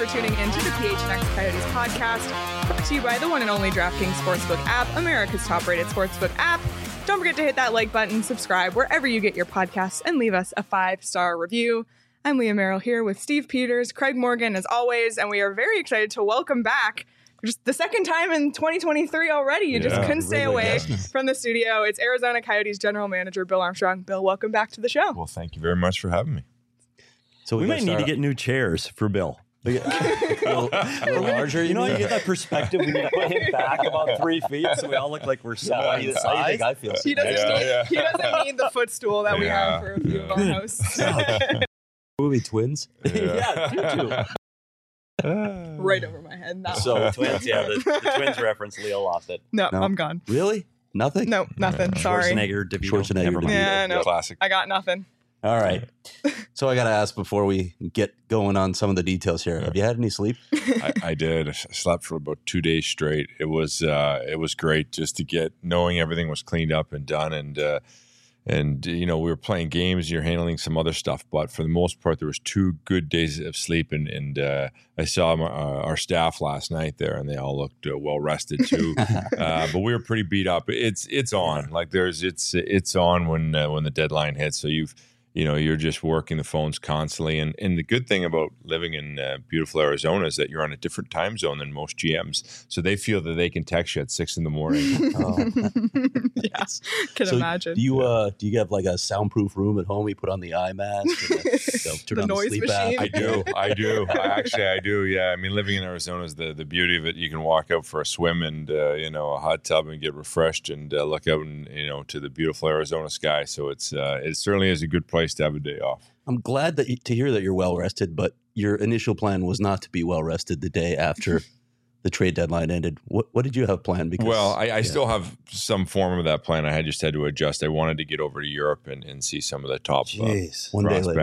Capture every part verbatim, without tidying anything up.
tuning in to the P H N X Coyotes podcast, brought to you by the one and only DraftKings Sportsbook app, America's top-rated sportsbook app. Don't forget to hit that like button, subscribe wherever you get your podcasts, and leave us a five-star review. I'm Leah Merrill here with Steve Peters, Craig Morgan, as always, and we are very excited to welcome back, just the second time in twenty twenty-three already. You yeah, just couldn't stay really away does. from the studio. It's Arizona Coyotes General Manager Bill Armstrong. Bill, welcome back to the show. Well, thank you very much for having me. So we, we might need to get new chairs for Bill. a little, a little larger, you know, you get that perspective. We need to put him back about three feet, so we all look like we're sat on the side. I think I feel. He doesn't. Yeah, need, yeah. He doesn't need the footstool that we yeah, have for a few yeah. of our hosts. Movie twins. Yeah, yeah you too. Right over my head. No. So twins, yeah, the, the twins reference. Leo lost it. No, no, I'm gone. Really? Nothing? No, nothing. Sorry. Schwarzenegger, DeVito. Schwarzenegger, DeVito. Yeah, no. Classic. I got nothing. All right. So I got to ask before we get going on some of the details here. Yeah. Have you had any sleep? I, I did. I slept for about two days straight. It was uh, it was great just to get knowing everything was cleaned up and done, and uh, and you know we were playing games. You're handling some other stuff, but for the most part, there was two good days of sleep, and and uh, I saw my, uh, our staff last night there, and they all looked uh, well rested too. uh, but we were pretty beat up. It's it's on like there's it's it's on when uh, when the deadline hits. So you've You know, you're just working the phones constantly. And, and the good thing about living in uh, beautiful Arizona is that you're on a different time zone than most G Ms. So they feel that they can text you at six in the morning. oh. Yes, can so imagine. Do you uh, do you have like a soundproof room at home? You put on the eye mask, and the, you know, turn the on noise the sleep machine. app. I do. I do. I, actually, I do. Yeah. I mean, living in Arizona is the, the beauty of it. You can walk out for a swim and, uh, you know, a hot tub and get refreshed and uh, look out and, you know, to the beautiful Arizona sky. So it's uh, it certainly is a good place to have a day off. I'm glad that you, to hear that you're well rested, but your initial plan was not to be well rested the day after the trade deadline ended. What what did you have planned? Because well, I, I yeah. still have some form of that plan. I had just had to adjust. I wanted to get over to Europe and, and see some of the top Jeez, uh, one day later.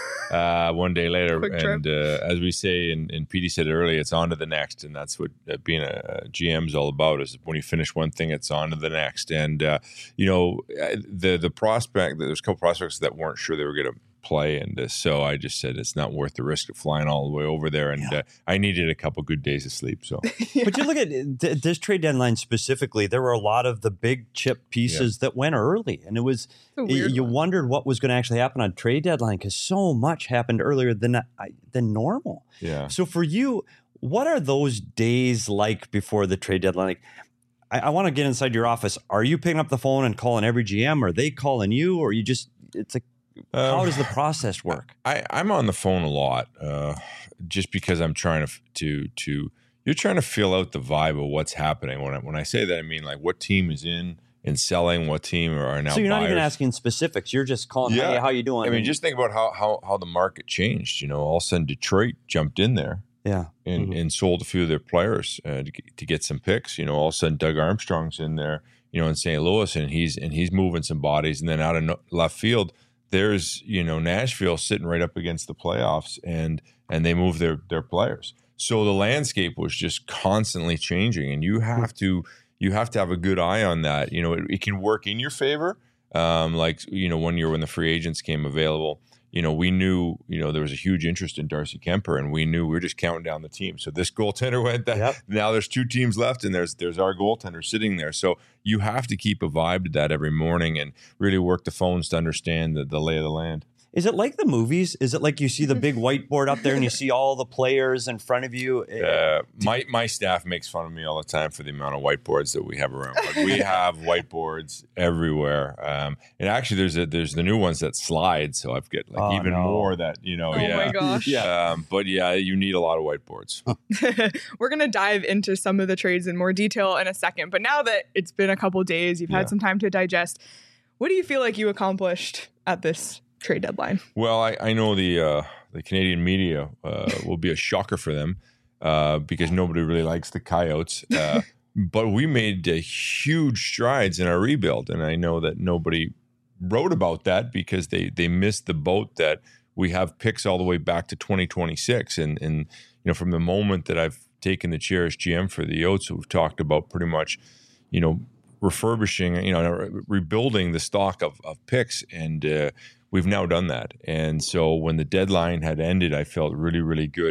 uh, one day later, Quick and uh, as we say, and, and Petey said it earlier, it's on to the next, and that's what uh, being a, a G M is all about. Is when you finish one thing, it's on to the next. And uh, you know, the the prospect. There's a couple prospects that weren't sure they were going to play, and uh, so I just said it's not worth the risk of flying all the way over there, and yeah. uh, I needed a couple good days of sleep. So, yeah. But you look at th- this trade deadline specifically, there were a lot of the big chip pieces yeah. that went early, and it was you, you wondered what was going to actually happen on trade deadline because so much happened earlier than uh, than normal. Yeah. So for you, what are those days like before the trade deadline? Like, I, I want to get inside your office. Are you picking up the phone and calling every G M? Are they calling you, or you just it's like How um, does the process work? I, I'm on the phone a lot, uh, just because I'm trying to to to. You're trying to feel out the vibe of what's happening. When I, when I say that, I mean like what team is in and selling, what team are now. So you're not buyers. even asking specifics. You're just calling, yeah. hey, how you doing? I mean, just think about how how how the market changed. You know, all of a sudden Detroit jumped in there, yeah, and, mm-hmm. and sold a few of their players uh, to, get, to get some picks. You know, all of a sudden Doug Armstrong's in there. You know, in Saint Louis, and he's and he's moving some bodies, and then out of no, left field. There's, you know, Nashville sitting right up against the playoffs, and and they move their their players. So the landscape was just constantly changing, and you have to you have to have a good eye on that. You know, it, it can work in your favor, um, like you know one year when the free agents came available. You know, we knew, you know, there was a huge interest in Darcy Kemper, and we knew we were just counting down the team. So this goaltender went that. Yep. Now there's two teams left, and there's there's our goaltender sitting there. So you have to keep a vibe to that every morning and really work the phones to understand the, the lay of the land. Is it like the movies? Is it like you see the big whiteboard up there and you see all the players in front of you? Uh, my my staff makes fun of me all the time for the amount of whiteboards that we have around. But we have whiteboards everywhere. Um, and actually, there's a, there's the new ones that slide, so I've got like oh, even no. more that you know. Oh yeah, my gosh! Yeah, um, but yeah, you need a lot of whiteboards. We're gonna dive into some of the trades in more detail in a second. But now that it's been a couple of days, you've had yeah. some time to digest. What do you feel like you accomplished at this trade deadline? Well, I, I know the uh, the Canadian media uh, will be a shocker for them uh, because nobody really likes the Coyotes. Uh, but we made uh, huge strides in our rebuild, and I know that nobody wrote about that because they they missed the boat that we have picks all the way back to twenty twenty-six. And and you know, from the moment that I've taken the chair as G M for the Yotes, we've talked about pretty much, you know, refurbishing, you know, rebuilding the stock of of picks, and uh, we've now done that. And so when the deadline had ended, I felt really, really good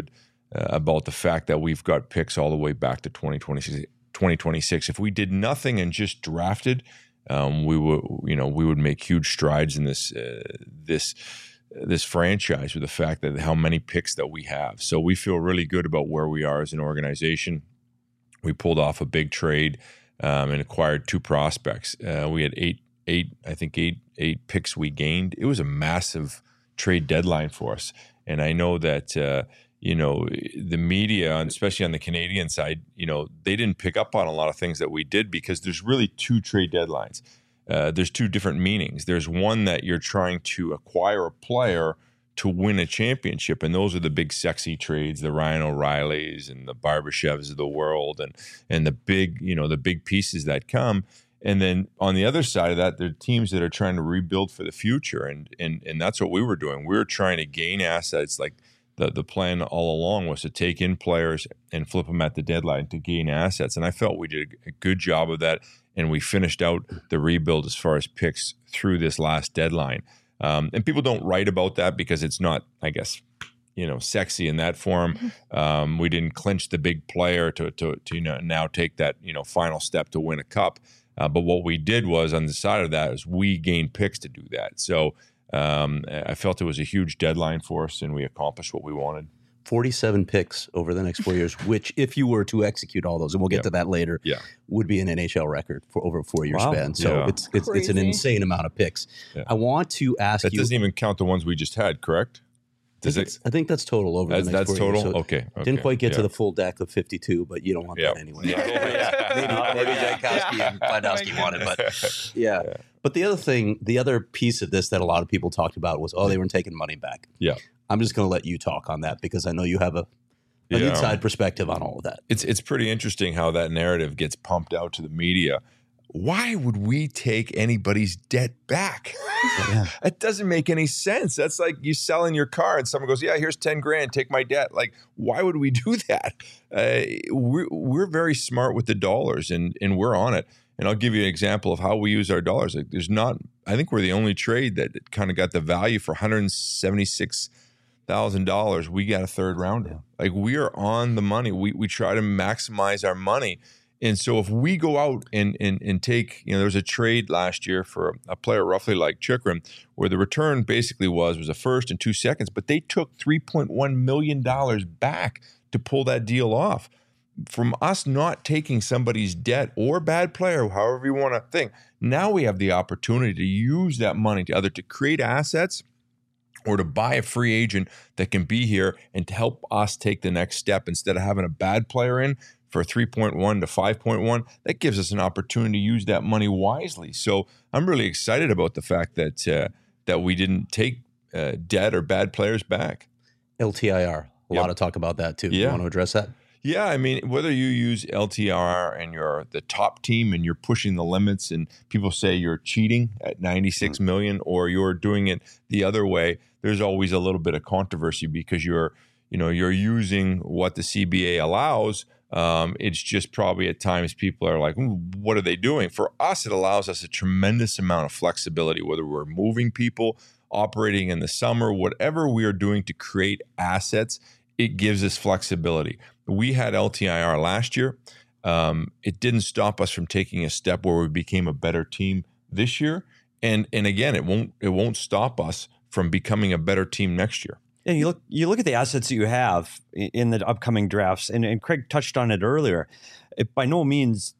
uh, about the fact that we've got picks all the way back to twenty twenty-six. If we did nothing and just drafted, um, we would, you know, we would make huge strides in this uh, this this franchise with the fact that how many picks that we have. So we feel really good about where we are as an organization. We pulled off a big trade um, and acquired two prospects. Uh, we had eight, eight, I think eight, eight picks we gained. It was a massive trade deadline for us. And I know that, uh, you know, the media, especially on the Canadian side, you know, they didn't pick up on a lot of things that we did because there's really two trade deadlines. Uh, there's two different meanings. There's one that you're trying to acquire a player to win a championship, and those are the big sexy trades, the Ryan O'Reillys and the Barbashevs of the world, and and the big, you know, the big pieces that come. And then on the other side of that, there are teams that are trying to rebuild for the future, and and and that's what we were doing. We were trying to gain assets. Like the the plan all along was to take in players and flip them at the deadline to gain assets, and I felt we did a good job of that, and we finished out the rebuild as far as picks through this last deadline. Um, and people don't write about that because it's not, I guess, you know, sexy in that form. Um, we didn't clinch the big player to, to, to, you know, now take that, you know, final step to win a cup. Uh, but what we did was on the side of that is we gained picks to do that. So um, I felt it was a huge deadline for us, and we accomplished what we wanted. forty-seven picks over the next four years, which if you were to execute all those, and we'll get yeah. to that later, yeah. would be an N H L record for over a four-year Wow. span. So Yeah. it's it's, it's an insane amount of picks. Yeah. I want to ask That you. doesn't even count the ones we just had, correct? I think, Does it's- I think that's total over That's, the next that's four total? years. So okay, okay. Didn't quite get yeah. to the full deck of fifty-two, but you don't want Yeah. that anyway. Yeah. maybe maybe Jankowski Yeah. and Bladowski Oh, wanted, but yeah. yeah. But the other thing, the other piece of this that a lot of people talked about was, oh, they weren't taking money back. Yeah. I'm just going to let you talk on that because I know you have a an Yeah. inside perspective on all of that. It's it's pretty interesting how that narrative gets pumped out to the media. Why would we take anybody's debt back? Yeah. It doesn't make any sense. That's like you selling your car and someone goes, yeah, here's ten grand, take my debt. Like, why would we do that? Uh, we're, we're very smart with the dollars, and, and we're on it. And I'll give you an example of how we use our dollars. Like, there's not, I think we're the only trade that kind of got the value for one hundred seventy-six thousand dollars. We got a third rounder. Like, we are on the money. We, we try to maximize our money. And so if we go out and, and and take, you know, there was a trade last year for a player roughly like Chychrun, where the return basically was was a first and two seconds, but they took three point one million dollars back to pull that deal off. From us not taking somebody's debt or bad player, however you want to think, now we have the opportunity to use that money to either to create assets or to buy a free agent that can be here and to help us take the next step instead of having a bad player in for three point one to five point one. That gives us an opportunity to use that money wisely. So I'm really excited about the fact that uh, that we didn't take uh, debt or bad players back. L T I R, a Yep. lot of talk about that too. Yeah. You want to address that? Yeah, I mean, whether you use L T R and you're the top team and you're pushing the limits and people say you're cheating at ninety-six Mm. million, or you're doing it the other way, there's always a little bit of controversy because you're, you know, you're using what the C B A allows. Um, it's just probably at times people are like, what are they doing? For us, it allows us a tremendous amount of flexibility, whether we're moving people, operating in the summer, whatever we are doing to create assets, it gives us flexibility. We had L T I R last year. Um, it didn't stop us from taking a step where we became a better team this year. And and again, it won't it won't stop us from becoming a better team next year. And you look you look at the assets that you have i- in the upcoming drafts, and, and Craig touched on it earlier. It, by no means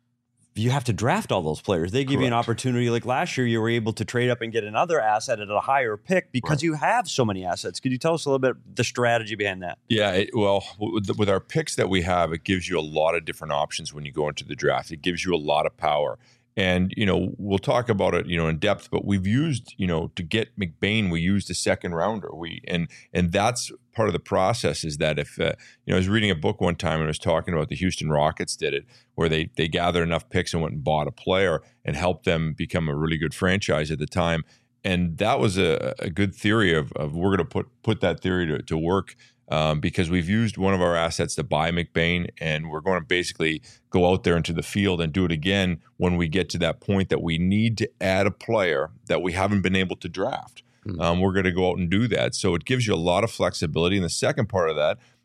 you have to draft all those players. They give you an Correct. opportunity. Like last year, you were able to trade up and get another asset at a higher pick because Right. you have so many assets. Could you tell us a little bit the strategy behind that? Yeah, it, well, with, the, with our picks that we have, it gives you a lot of different options when you go into the draft. It gives you a lot of power. And, you know, we'll talk about it, you know, in depth, but we've used, you know, to get McBain, we used a second rounder. We and and that's part of the process is that if, uh, you know, I was reading a book one time and I was talking about the Houston Rockets did it, where they they gathered enough picks and went and bought a player and helped them become a really good franchise at the time. And that was a, a good theory of, of we're going to put put that theory to, to work. Um, because we've used one of our assets to buy McBain, and we're going to basically go out there into the field and do it again when we get to that point that we need to add a player that we haven't been able to draft. Mm. Um, we're going to go out and do that. So it gives you a lot of flexibility. And the second part of that,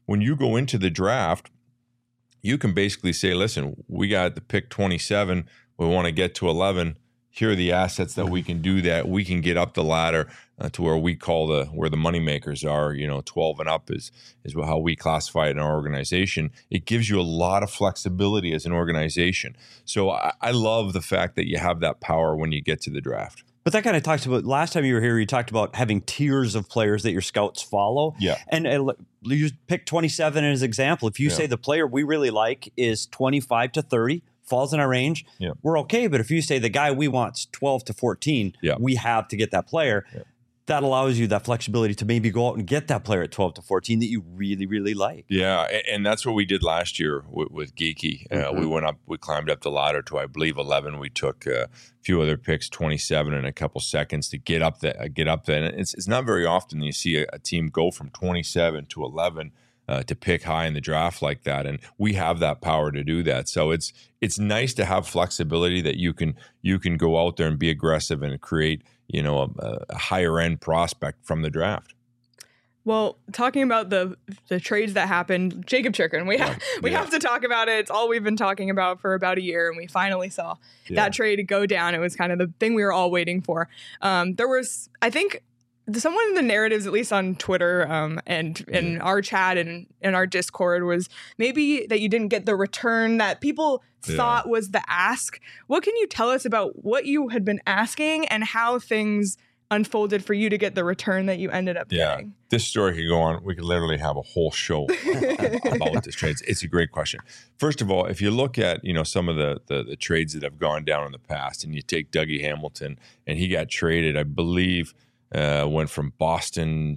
when you go into the draft, you can basically say, listen, we got the pick twenty-seven. We want to get to eleven. Here are the assets that we can do that. We can get up the ladder uh, to where we call the where the money makers are. You know, twelve and up is is how we classify it in our organization. It gives you a lot of flexibility as an organization. So I, I love the fact that you have that power when you get to the draft. But that kind of talks about, last time you were here, you talked about having tiers of players that your scouts follow. Yeah. And uh, you pick twenty-seven as an example. If you yeah. say the player we really like is twenty-five to thirty, falls in our range, yeah. we're okay. But if you say the guy we want's twelve to fourteen, yeah. we have to get that player. Yeah. That allows you that flexibility to maybe go out and get that player at twelve to fourteen that you really, really like. Yeah, and that's what we did last year with, with Geekie. Mm-hmm. Uh, we went up, we climbed up the ladder to, I believe, eleven. We took a few other picks, twenty-seven in a couple seconds to get up there. Get up there. And it's, it's not very often that you see a, a team go from twenty-seven to eleven uh, to pick high in the draft like that. And we have that power to do that. So it's it's nice to have flexibility that you can you can go out there and be aggressive and create, you know, a, a higher end prospect from the draft. Well, talking about the the trades that happened, Jacob Chikrin, we have yeah. we yeah. have to talk about it. It's all we've been talking about for about a year, and we finally saw yeah. that trade go down. It was kind of the thing we were all waiting for. Um, there was, I think, someone in the narratives, at least on Twitter um, and in yeah. our chat and in our Discord, was maybe that you didn't get the return that people yeah. thought was the ask. What can you tell us about what you had been asking and how things unfolded for you to get the return that you ended up yeah. getting? This story could go on. We could literally have a whole show about this trade. It's, it's a great question. First of all, if you look at, you know, some of the, the the trades that have gone down in the past, and you take Dougie Hamilton, and he got traded, I believe, uh, went from Boston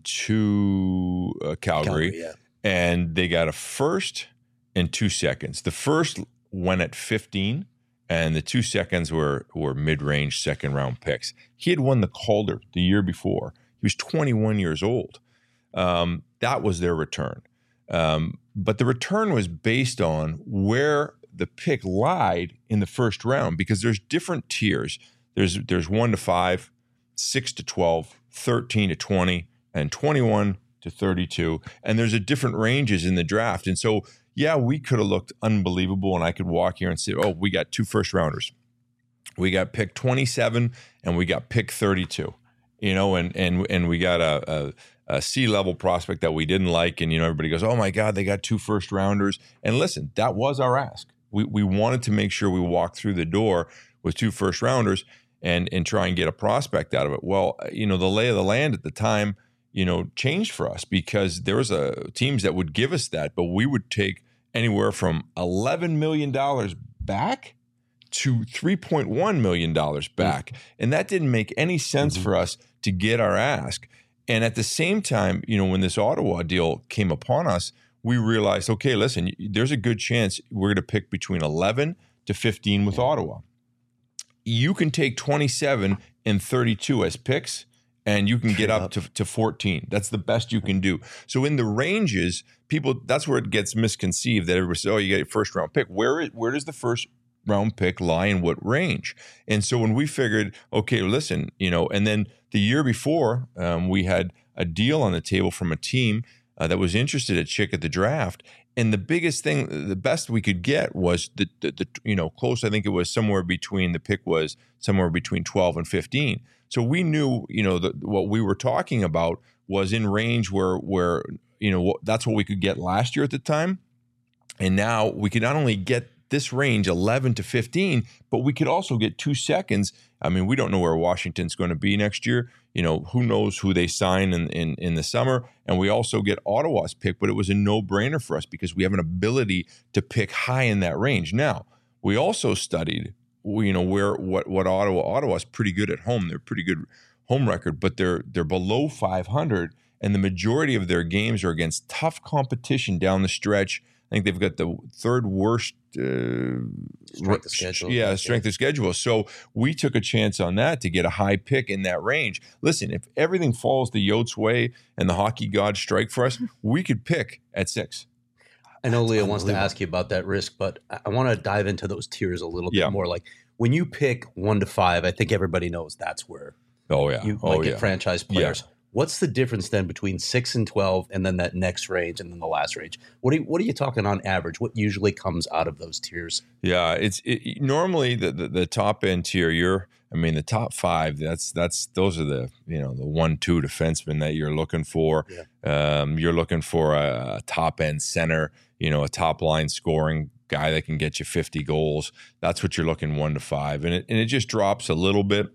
to uh, Calgary, Calgary yeah. and they got a first and two seconds. The first went at fifteen. And the two seconds were were mid-range second-round picks. He had won the Calder the year before. He was twenty-one years old. Um, that was their return. Um, but the return was based on where the pick lied in the first round, because there's different tiers. There's there's one to five, six to twelve, thirteen to twenty, and twenty-one to thirty-two. And there's a different ranges in the draft. And so yeah, we could have looked unbelievable, and I could walk here and say, oh, we got two first rounders. We got pick twenty-seven and we got pick thirty-two, you know, and and and we got a, a, a C-level prospect that we didn't like. And, you know, everybody goes, oh, my God, they got two first rounders. And listen, that was our ask. We we wanted to make sure we walked through the door with two first rounders and, and try and get a prospect out of it. Well, you know, the lay of the land at the time, you know, changed for us, because there was a teams that would give us that, but we would take anywhere from eleven million dollars back to three point one million dollars back. Mm-hmm. And that didn't make any sense mm-hmm. for us to get our ask. And at the same time, you know, when this Ottawa deal came upon us, we realized, okay, listen, there's a good chance we're going to pick between eleven to fifteen with yeah. Ottawa. You can take twenty-seven and thirty-two as picks, and you can get up to, to fourteen. That's the best you can do. So in the ranges, people, that's where it gets misconceived, that everybody says, oh, you get a first round pick. Where is, where does the first round pick lie in what range? And so when we figured, okay, listen, you know, and then the year before, um, we had a deal on the table from a team uh, that was interested at Chick at the draft. And the biggest thing, the best we could get was the, the, the, you know, close. I think it was somewhere between, the pick was somewhere between twelve and fifteen. So we knew, you know, that what we were talking about was in range where, where, you know, that's what we could get last year at the time. And now we could not only get this range, eleven to fifteen, but we could also get two seconds. I mean, we don't know where Washington's going to be next year. You know, who knows who they sign in, in, in the summer. And we also get Ottawa's pick, but it was a no-brainer for us because we have an ability to pick high in that range. Now, we also studied, you know, where what what Ottawa Ottawa's pretty good at home. They're pretty good home record, but they're they're below five hundred, and the majority of their games are against tough competition down the stretch. I think they've got the third worst uh, strength of schedule. Yeah, strength yeah. of schedule. So we took a chance on that to get a high pick in that range. Listen, if everything falls the Yotes way and the hockey gods strike for us, we could pick at six. I know Leah wants to ask you about that risk, but I want to dive into those tiers a little yeah. bit more. Like when you pick one to five, I think everybody knows that's where oh yeah you oh, might get yeah. franchise players. Yeah. What's the difference then between six and twelve and then that next range and then the last range? What are you, what are you talking on average? What usually comes out of those tiers? Yeah, it's it, normally the, the the top end tier. You're, I mean, the top five. That's that's those are the you know the one two defensemen that you're looking for. Yeah. Um, you're looking for a, a top end center. You know, a top line scoring guy that can get you fifty goals. That's what you're looking one to five, and it and it just drops a little bit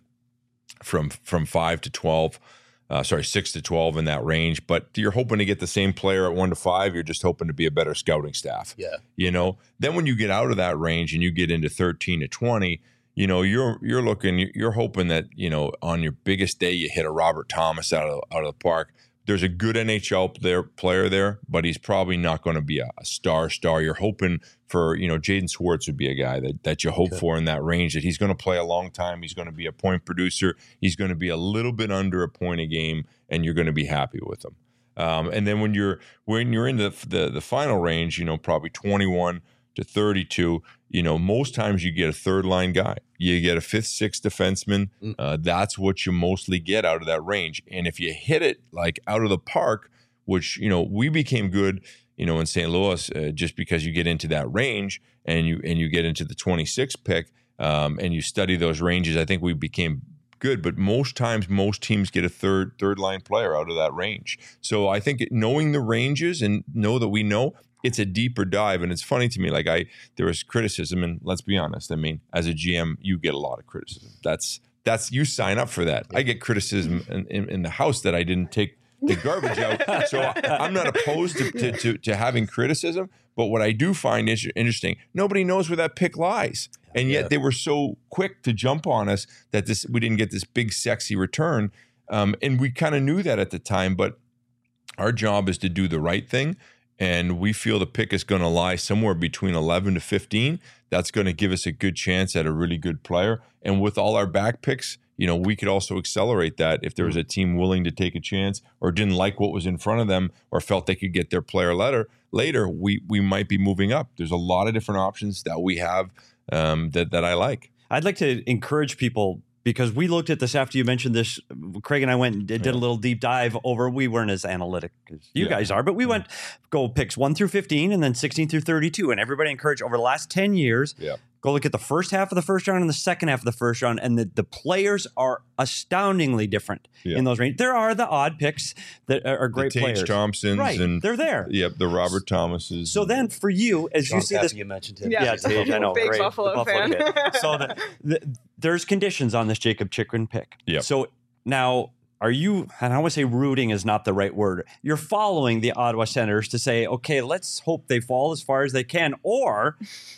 from from five to twelve. Uh, sorry, six to twelve in that range, but you're hoping to get the same player at one to five. You're just hoping to be a better scouting staff. Yeah. You know, then when you get out of that range and you get into thirteen to twenty, you know, you're, you're looking, you're hoping that, you know, on your biggest day, you hit a Robert Thomas out of, out of the park. There's a good N H L there, player there, but he's probably not going to be a, a star star. You're hoping for, you know, Jaden Schwartz would be a guy that, that you hope okay. for in that range, that he's going to play a long time. He's going to be a point producer. He's going to be a little bit under a point a game, and you're going to be happy with him. Um, and then when you're when you're in the, the the final range, you know, probably twenty-one to thirty-two, you know, most times you get a third line guy. You get a fifth, sixth defenseman. Uh, that's what you mostly get out of that range. And if you hit it like out of the park, which, you know, we became good, you know, in Saint Louis, uh, just because you get into that range and you and you get into the twenty-sixth pick um, and you study those ranges, I think we became good. But most times, most teams get a third third line player out of that range. So I think knowing the ranges and know that we know, it's a deeper dive. And it's funny to me, like I, there was criticism, and let's be honest. I mean, as a G M, you get a lot of criticism. That's, that's, you sign up for that. I get criticism in, in, in the house that I didn't take the garbage out. So I, I'm not opposed to, to, to, to having criticism, but what I do find is interesting, nobody knows where that pick lies. And yet yeah. they were so quick to jump on us that this, we didn't get this big, sexy return. Um, and we kind of knew that at the time, but our job is to do the right thing. And we feel the pick is going to lie somewhere between eleven to fifteen. That's going to give us a good chance at a really good player. And with all our back picks, you know, we could also accelerate that if there was a team willing to take a chance or didn't like what was in front of them or felt they could get their player later, later we we might be moving up. There's a lot of different options that we have um, that, that I like. I'd like to encourage people, because we looked at this after you mentioned this. Craig and I went and did yeah. a little deep dive over. We weren't as analytic as you yeah. guys are, but we went go picks one through fifteen and then sixteen through thirty-two. And everybody encouraged over the last ten years, yeah. go look at the first half of the first round and the second half of the first round. And the, the players are astoundingly different yeah. in those ranges. There are the odd picks that are, are great the players. Thompsons. Right, and, they're there. Yep, the Robert Thomases. So then for you, as Sean you see Cappy, this. you mentioned him. Yeah, yeah Tage, I know. Big great. Buffalo, the Buffalo fan. kid. So the, the, there's conditions on this Jacob Chychrun pick. Yep. So now, are you, and I would say rooting is not the right word, you're following the Ottawa Senators to say, okay, let's hope they fall as far as they can, or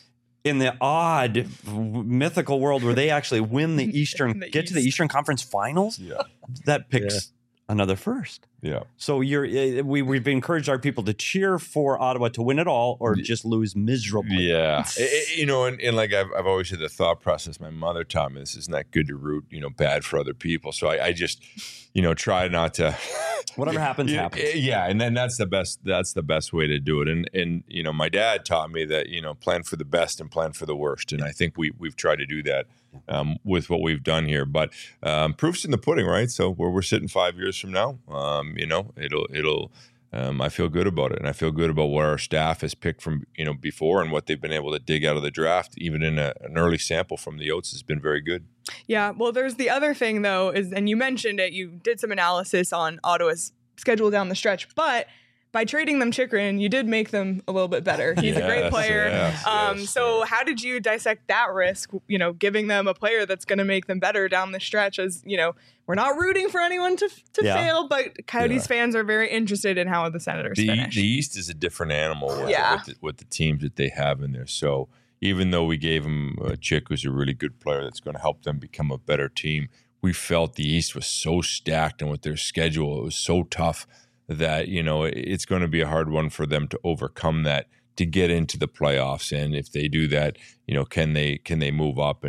in the odd mythical world where they actually win the Eastern, the get East. to the Eastern Conference Finals, yeah. that picks yeah. another first. Yeah. So you're we we've encouraged our people to cheer for Ottawa to win it all or just lose miserably. Yeah. it, it, you know, and, and like I've I've always had the thought process. My mother taught me this is not good to root, you know, bad for other people. So I, I just, you know, try not to. Whatever happens, yeah, happens. Yeah, and then that's the best. That's the best way to do it. And and you know, my dad taught me that you know, plan for the best and plan for the worst. And I think we we've tried to do that um, with what we've done here. But um, proof's in the pudding, right? So where we're sitting five years from now, um, you know, it'll it'll. Um, I feel good about it, and I feel good about what our staff has picked from you know before and what they've been able to dig out of the draft. Even in a, an early sample from the Oats has been very good. Yeah, well, there's the other thing though, is and you mentioned it. You did some analysis on Ottawa's schedule down the stretch, but by trading them Chychrun, you did make them a little bit better. He's yes, a great player. Yes, um, yes, so yes. how did you dissect that risk, you know, giving them a player that's going to make them better down the stretch? As, you know, we're not rooting for anyone to to yeah. fail, but Coyotes yeah. fans are very interested in how the Senators the, finish. The East is a different animal with, yeah. with, the, with the teams that they have in there. So even though we gave them a Chick, who's a really good player that's going to help them become a better team, we felt the East was so stacked, and with their schedule, it was so tough that, you know, it's going to be a hard one for them to overcome that to get into the playoffs. And if they do that, you know, can they can they move up? And,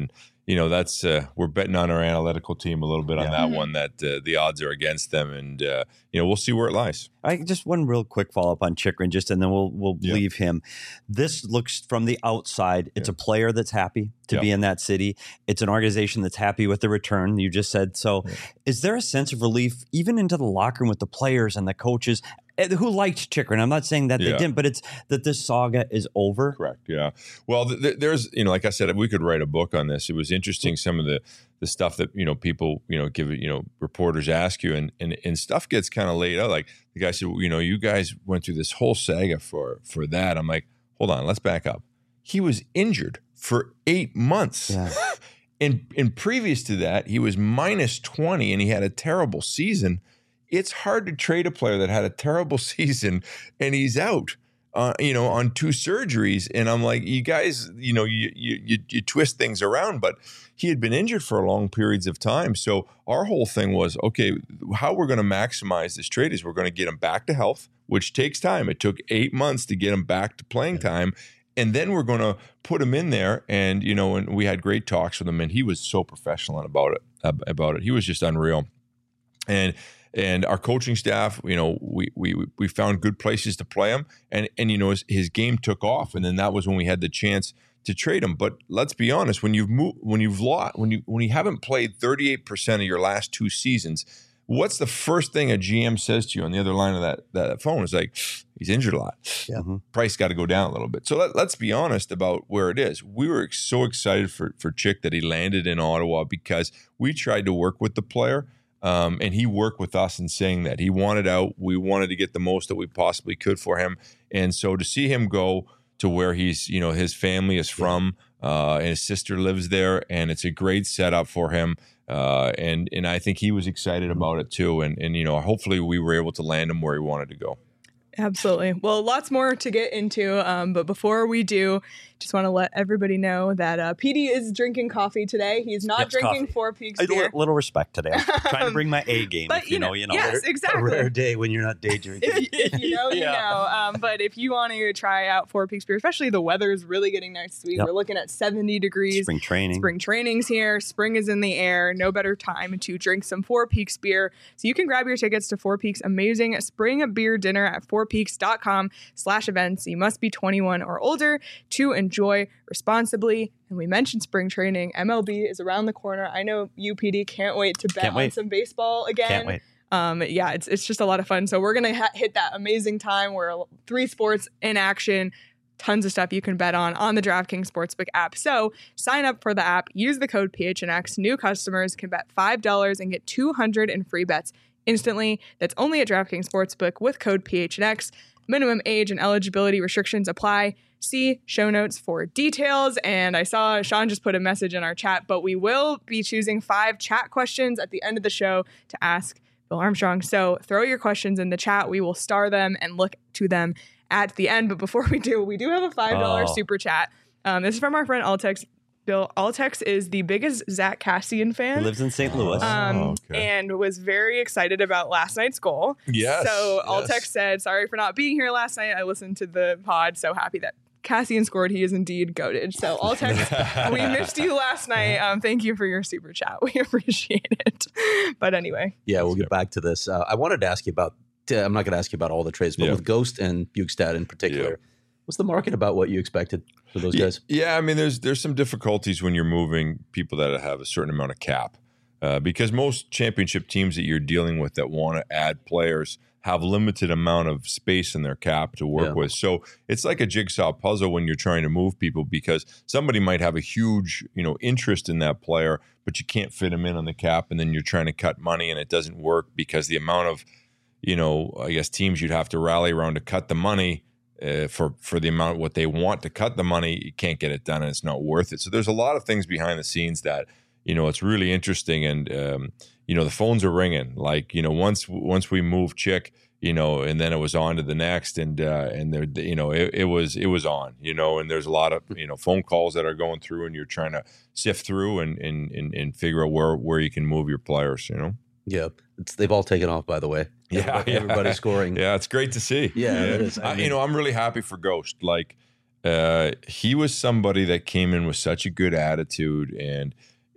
you know, that's uh, we're betting on our analytical team a little bit on Yeah. that Mhm. one. That uh, the odds are against them, and uh, you know, we'll see where it lies. I just one real quick follow up on Chychrun, just and then we'll we'll Yeah. leave him. This looks from the outside. It's Yeah. a player that's happy to Yeah. be in that city. It's an organization that's happy with the return. You just said so. Yeah. Is there a sense of relief even into the locker room with the players and the coaches eh, who liked Chychrun? I'm not saying that they Yeah. didn't, but it's that this saga is over. Correct. Yeah. Well, th- th- there's, you know, like I said, we could write a book on this. It was interesting, some of the the stuff that, you know, people, you know, give it, you know, reporters ask you, and and, and stuff gets kind of laid out. Like the guy said, well, you know, you guys went through this whole saga for for that. I'm like, hold on, let's back up. He was injured for eight months. Yeah. And and previous to that, he was minus twenty and he had a terrible season. It's hard to trade a player that had a terrible season and he's out, uh, you know, on two surgeries. And I'm like, you guys, you know, you, you you you twist things around, but he had been injured for long periods of time. So our whole thing was, okay, how we're going to maximize this trade is we're going to get him back to health, which takes time. It took eight months to get him back to playing time. And then we're going to put him in there. And, you know, and we had great talks with him, and he was so professional about it, about it. He was just unreal. And, and our coaching staff, you know, we, we, we found good places to play him, and, and, you know, his, his game took off. And then that was when we had the chance to trade him. But let's be honest, when you've moved, when you've lost, when you, when you haven't played thirty-eight percent of your last two seasons, what's the first thing a G M says to you on the other line of that, that phone? Is like, he's injured a lot. Yeah. Mm-hmm. Price got to go down a little bit. So let, let's be honest about where it is. We were so excited for, for Chick that he landed in Ottawa because we tried to work with the player, um, and he worked with us in saying that he wanted out. We wanted to get the most that we possibly could for him. And so to see him go to where he's, you know, his family is from, uh, and his sister lives there, and it's a great setup for him. Uh, and and I think he was excited about it too. And and you know, hopefully we were able to land him where he wanted to go. Absolutely. Well, lots more to get into. Um, but before we do, just want to let everybody know that uh, P D is drinking coffee today. He's not Yes, drinking coffee. Four Peaks A beer. little, little respect today. I'm trying to bring my A game. But, If you, you know, know, you know. yes, A exactly. rare day when you're not day drinking. If, if you know, you Yeah. know. Um, but if you want to try out Four Peaks beer, especially the weather is really getting nice this week. Yep. We're looking at seventy degrees. Spring training. Spring training's here. Spring is in the air. No better time to drink some Four Peaks beer. So you can grab your tickets to Four Peaks' amazing spring beer dinner at fourpeaks.com slash events. You must be twenty-one or older to enjoy responsibly. And we mentioned spring training. M L B is around the corner. I know U P D can't wait to bet Can't on wait. some baseball again. Can't wait. Um, yeah, it's it's just a lot of fun. So we're gonna ha- hit that amazing time where three sports in action, tons of stuff you can bet on on the DraftKings Sportsbook app. So sign up for the app, use the code P H N X. New customers can bet five dollars and get two hundred in free bets instantly. That's only at DraftKings Sportsbook with code P H N X. Minimum age and eligibility restrictions apply. See show notes for details. And I saw Sean just put a message in our chat, but we will be choosing five chat questions at the end of the show to ask Bill Armstrong. So throw your questions in the chat. We will star them and look to them at the end. But before we do, we do have a five dollars Oh. super chat. Um, this is from our friend Altex. Bill Altex is the biggest Zach Cassian fan. He lives in Saint Louis. Um, Oh, okay. and was very excited about last night's goal. Yes, So yes. Altex said, sorry for not being here last night. I listened to the pod. So happy that Cassian scored. He is indeed goated. So Altex, we missed you last night. Um, thank you for your super chat. We appreciate it. But anyway. Yeah, we'll get back to this. Uh, I wanted to ask you about, uh, I'm not going to ask you about all the trades, but Yeah. with Ghost and Bukestad in particular, Yeah. what's the market about what you expected for those Yeah, guys? yeah, I mean, there's there's some difficulties when you're moving people that have a certain amount of cap, uh, because most championship teams that you're dealing with that want to add players have limited amount of space in their cap to work Yeah. with. So it's like a jigsaw puzzle when you're trying to move people, because somebody might have a huge, you know, interest in that player, but you can't fit them in on the cap, and then you're trying to cut money and it doesn't work because the amount of, you know, I guess teams you'd have to rally around to cut the money. Uh, for for the amount what they want to cut the money, you can't get it done, and it's not worth it. So there's a lot of things behind the scenes that, you know, it's really interesting, and um, you know, the phones are ringing. Like, you know, once once we moved Chick, you know, and then it was on to the next, and uh, and there, you know, it, it was it was on, you know, and there's a lot of, you know, phone calls that are going through, and you're trying to sift through and and and, and figure out where where you can move your players, you know. Yeah, it's, they've all taken off, by the way. Yeah, Everybody- yeah. everybody's scoring. Yeah, it's great to see. Yeah, it is. I I- mean- you know, I'm really happy for Ghost. Like, uh, he was somebody that came in with such a good attitude, and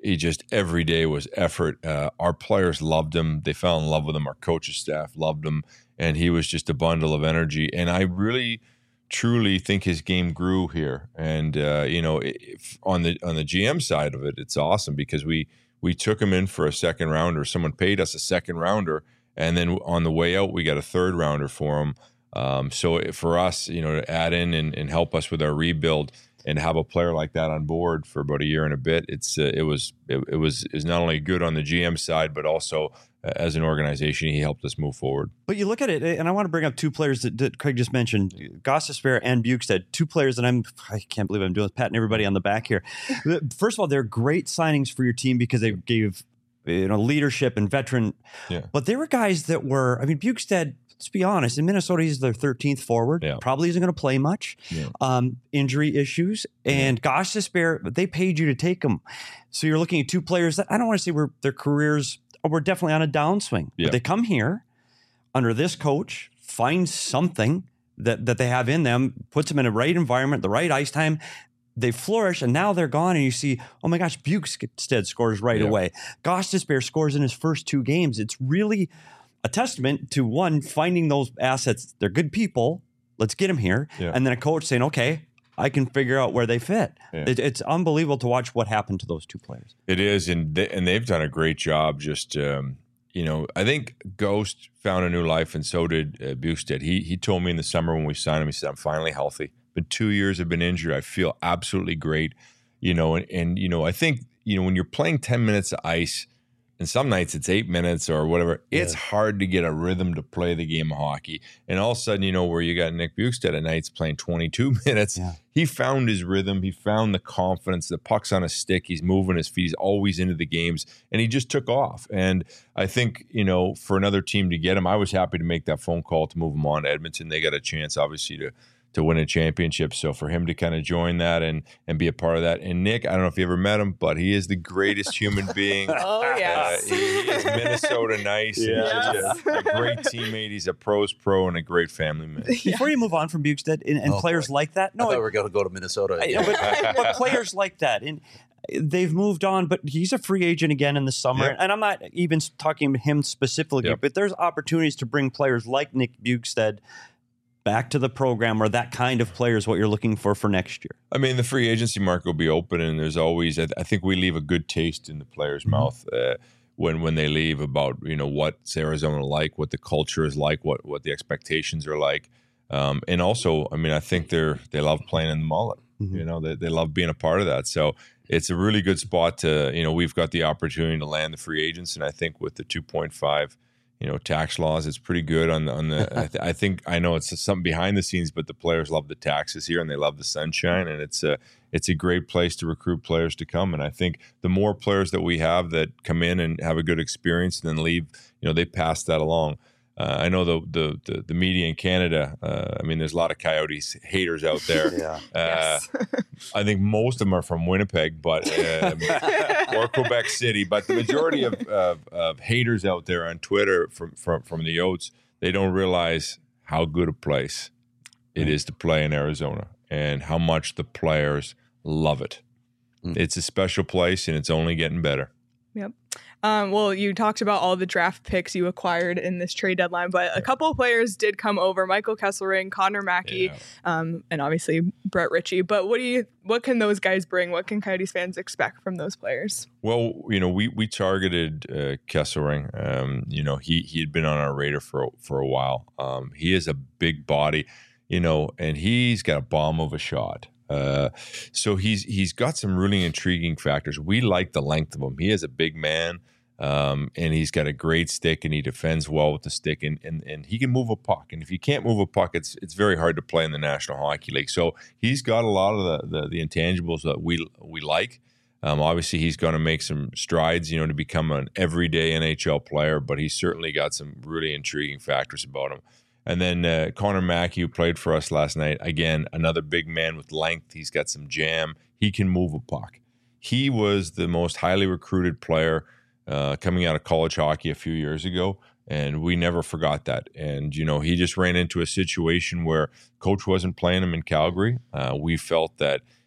he just every day was effort. Uh, our players loved him. They fell in love with him. Our coaching staff loved him. And he was just a bundle of energy. And I really, truly think his game grew here. And, uh, you know, if on the on the G M side of it, it's awesome because we we took him in for a second rounder. Someone paid us a second rounder. And then on the way out, we got a third rounder for him. Um, so for us, you know, to add in and, and help us with our rebuild and have a player like that on board for about a year and a bit, it's uh, it was it, it was is not only good on the G M side, but also uh, as an organization, he helped us move forward. But you look at it, and I want to bring up two players that, that Craig just mentioned, Gostisbehere and Bjugstad, two players that I'm I can't believe I'm doing this, patting everybody on the back here. First of all, they're great signings for your team because they gave you know leadership and veteran. Yeah. But they were guys that were, I mean, Bjugstad, let's be honest, in Minnesota, he's their thirteenth forward. Yeah. Probably isn't going to play much. Yeah. Um, injury issues. And yeah. Gostisbehere, they paid you to take him. So you're looking at two players that I don't want to say were their careers were definitely on a downswing. Yeah. But they come here under this coach, find something that, that they have in them, puts them in the right environment, the right ice time. They flourish, and now they're gone, and you see, oh my gosh, Bjugstad scores right yeah. away. Gostisbehere scores in his first two games. It's really a testament to, one, finding those assets. They're good people. Let's get them here. Yeah. And then a coach saying, okay, I can figure out where they fit. Yeah. It, it's unbelievable to watch what happened to those two players. It is, and they, and they've done a great job. Just um, you know, I think Ghost found a new life, and so did uh, Bjugstad. He he told me in the summer when we signed him, he said, "I'm finally healthy. Been two years, I've been injured. I feel absolutely great." You know, and and you know, I think you know when you're playing ten minutes of ice. And some nights it's eight minutes or whatever. Yeah. It's hard to get a rhythm to play the game of hockey. And all of a sudden, you know, where you got Nick Bjugstad at nights playing twenty-two minutes, yeah. he found his rhythm. He found the confidence. The puck's on his stick. He's moving his feet. He's always into the games. And he just took off. And I think, you know, for another team to get him, I was happy to make that phone call to move him on to Edmonton. They got a chance, obviously, to to win a championship. So for him to kind of join that and and be a part of that. And Nick, I don't know if you ever met him, but he is the greatest human being. Oh, yes. Uh, he, he is Minnesota nice. Yeah. And he's just a, a great teammate. He's a pro's pro and a great family man. Before you move on from Bjugstad and, and Oh, players boy. like that, no, I thought it- we were going to go to Minnesota. I- but, but players like that, and they've moved on. But he's a free agent again in the summer, Yep. and I'm not even talking to him specifically. Yep. But there's opportunities to bring players like Nick Bjugstad back to the program, or that kind of player is what you're looking for for next year. I mean, the free agency market will be open, and there's always, I, th- I think we leave a good taste in the player's Mm-hmm. mouth uh, when when they leave about, you know, what's Arizona like, what the culture is like, what what the expectations are like. Um, and also, I mean, I think they're they love playing in the mullet. Mhm. You know, they, they love being a part of that. So it's a really good spot to, you know, we've got the opportunity to land the free agents. And I think with the two point five, you know, tax laws, it's pretty good on the, on the, I, th- I think, I know it's something behind the scenes, but the players love the taxes here and they love the sunshine, and it's a, it's a great place to recruit players to come. And I think the more players that we have that come in and have a good experience and then leave, you know, they pass that along. Uh, I know the, the the the media in Canada. Uh, I mean, there's a lot of Coyotes haters out there. Yeah. Uh, Yes. I think most of them are from Winnipeg, but um, or Quebec City. But the majority of, of, of haters out there on Twitter from from from the Yotes, they don't realize how good a place it is to play in Arizona and how much the players love it. Mm. It's a special place, and it's only getting better. Yep. Um, well, you talked about all the draft picks you acquired in this trade deadline, but a couple of players did come over: Michael Kesselring, Connor Mackey, Yeah. um, and obviously Brett Ritchie. But what do you? What can those guys bring? What can Coyotes fans expect from those players? Well, you know, we we targeted uh, Kesselring. Um, you know, he he had been on our radar for for a while. Um, he is a big body, you know, and he's got a bomb of a shot. Uh, so he's he's got some really intriguing factors. We like the length of him. He is a big man, um, and he's got a great stick, and he defends well with the stick, and, and and he can move a puck. And if you can't move a puck, it's it's very hard to play in the National Hockey League. So he's got a lot of the the, the intangibles that we we like. Um, obviously, he's going to make some strides, you know, to become an everyday N H L player, but he's certainly got some really intriguing factors about him. And then uh, Connor Mackey, who played for us last night, again, another big man with length. He's got some jam. He can move a puck. He was the most highly recruited player uh, coming out of college hockey a few years ago, and we never forgot that. And, you know, he just ran into a situation where coach wasn't playing him in Calgary. Uh, we felt that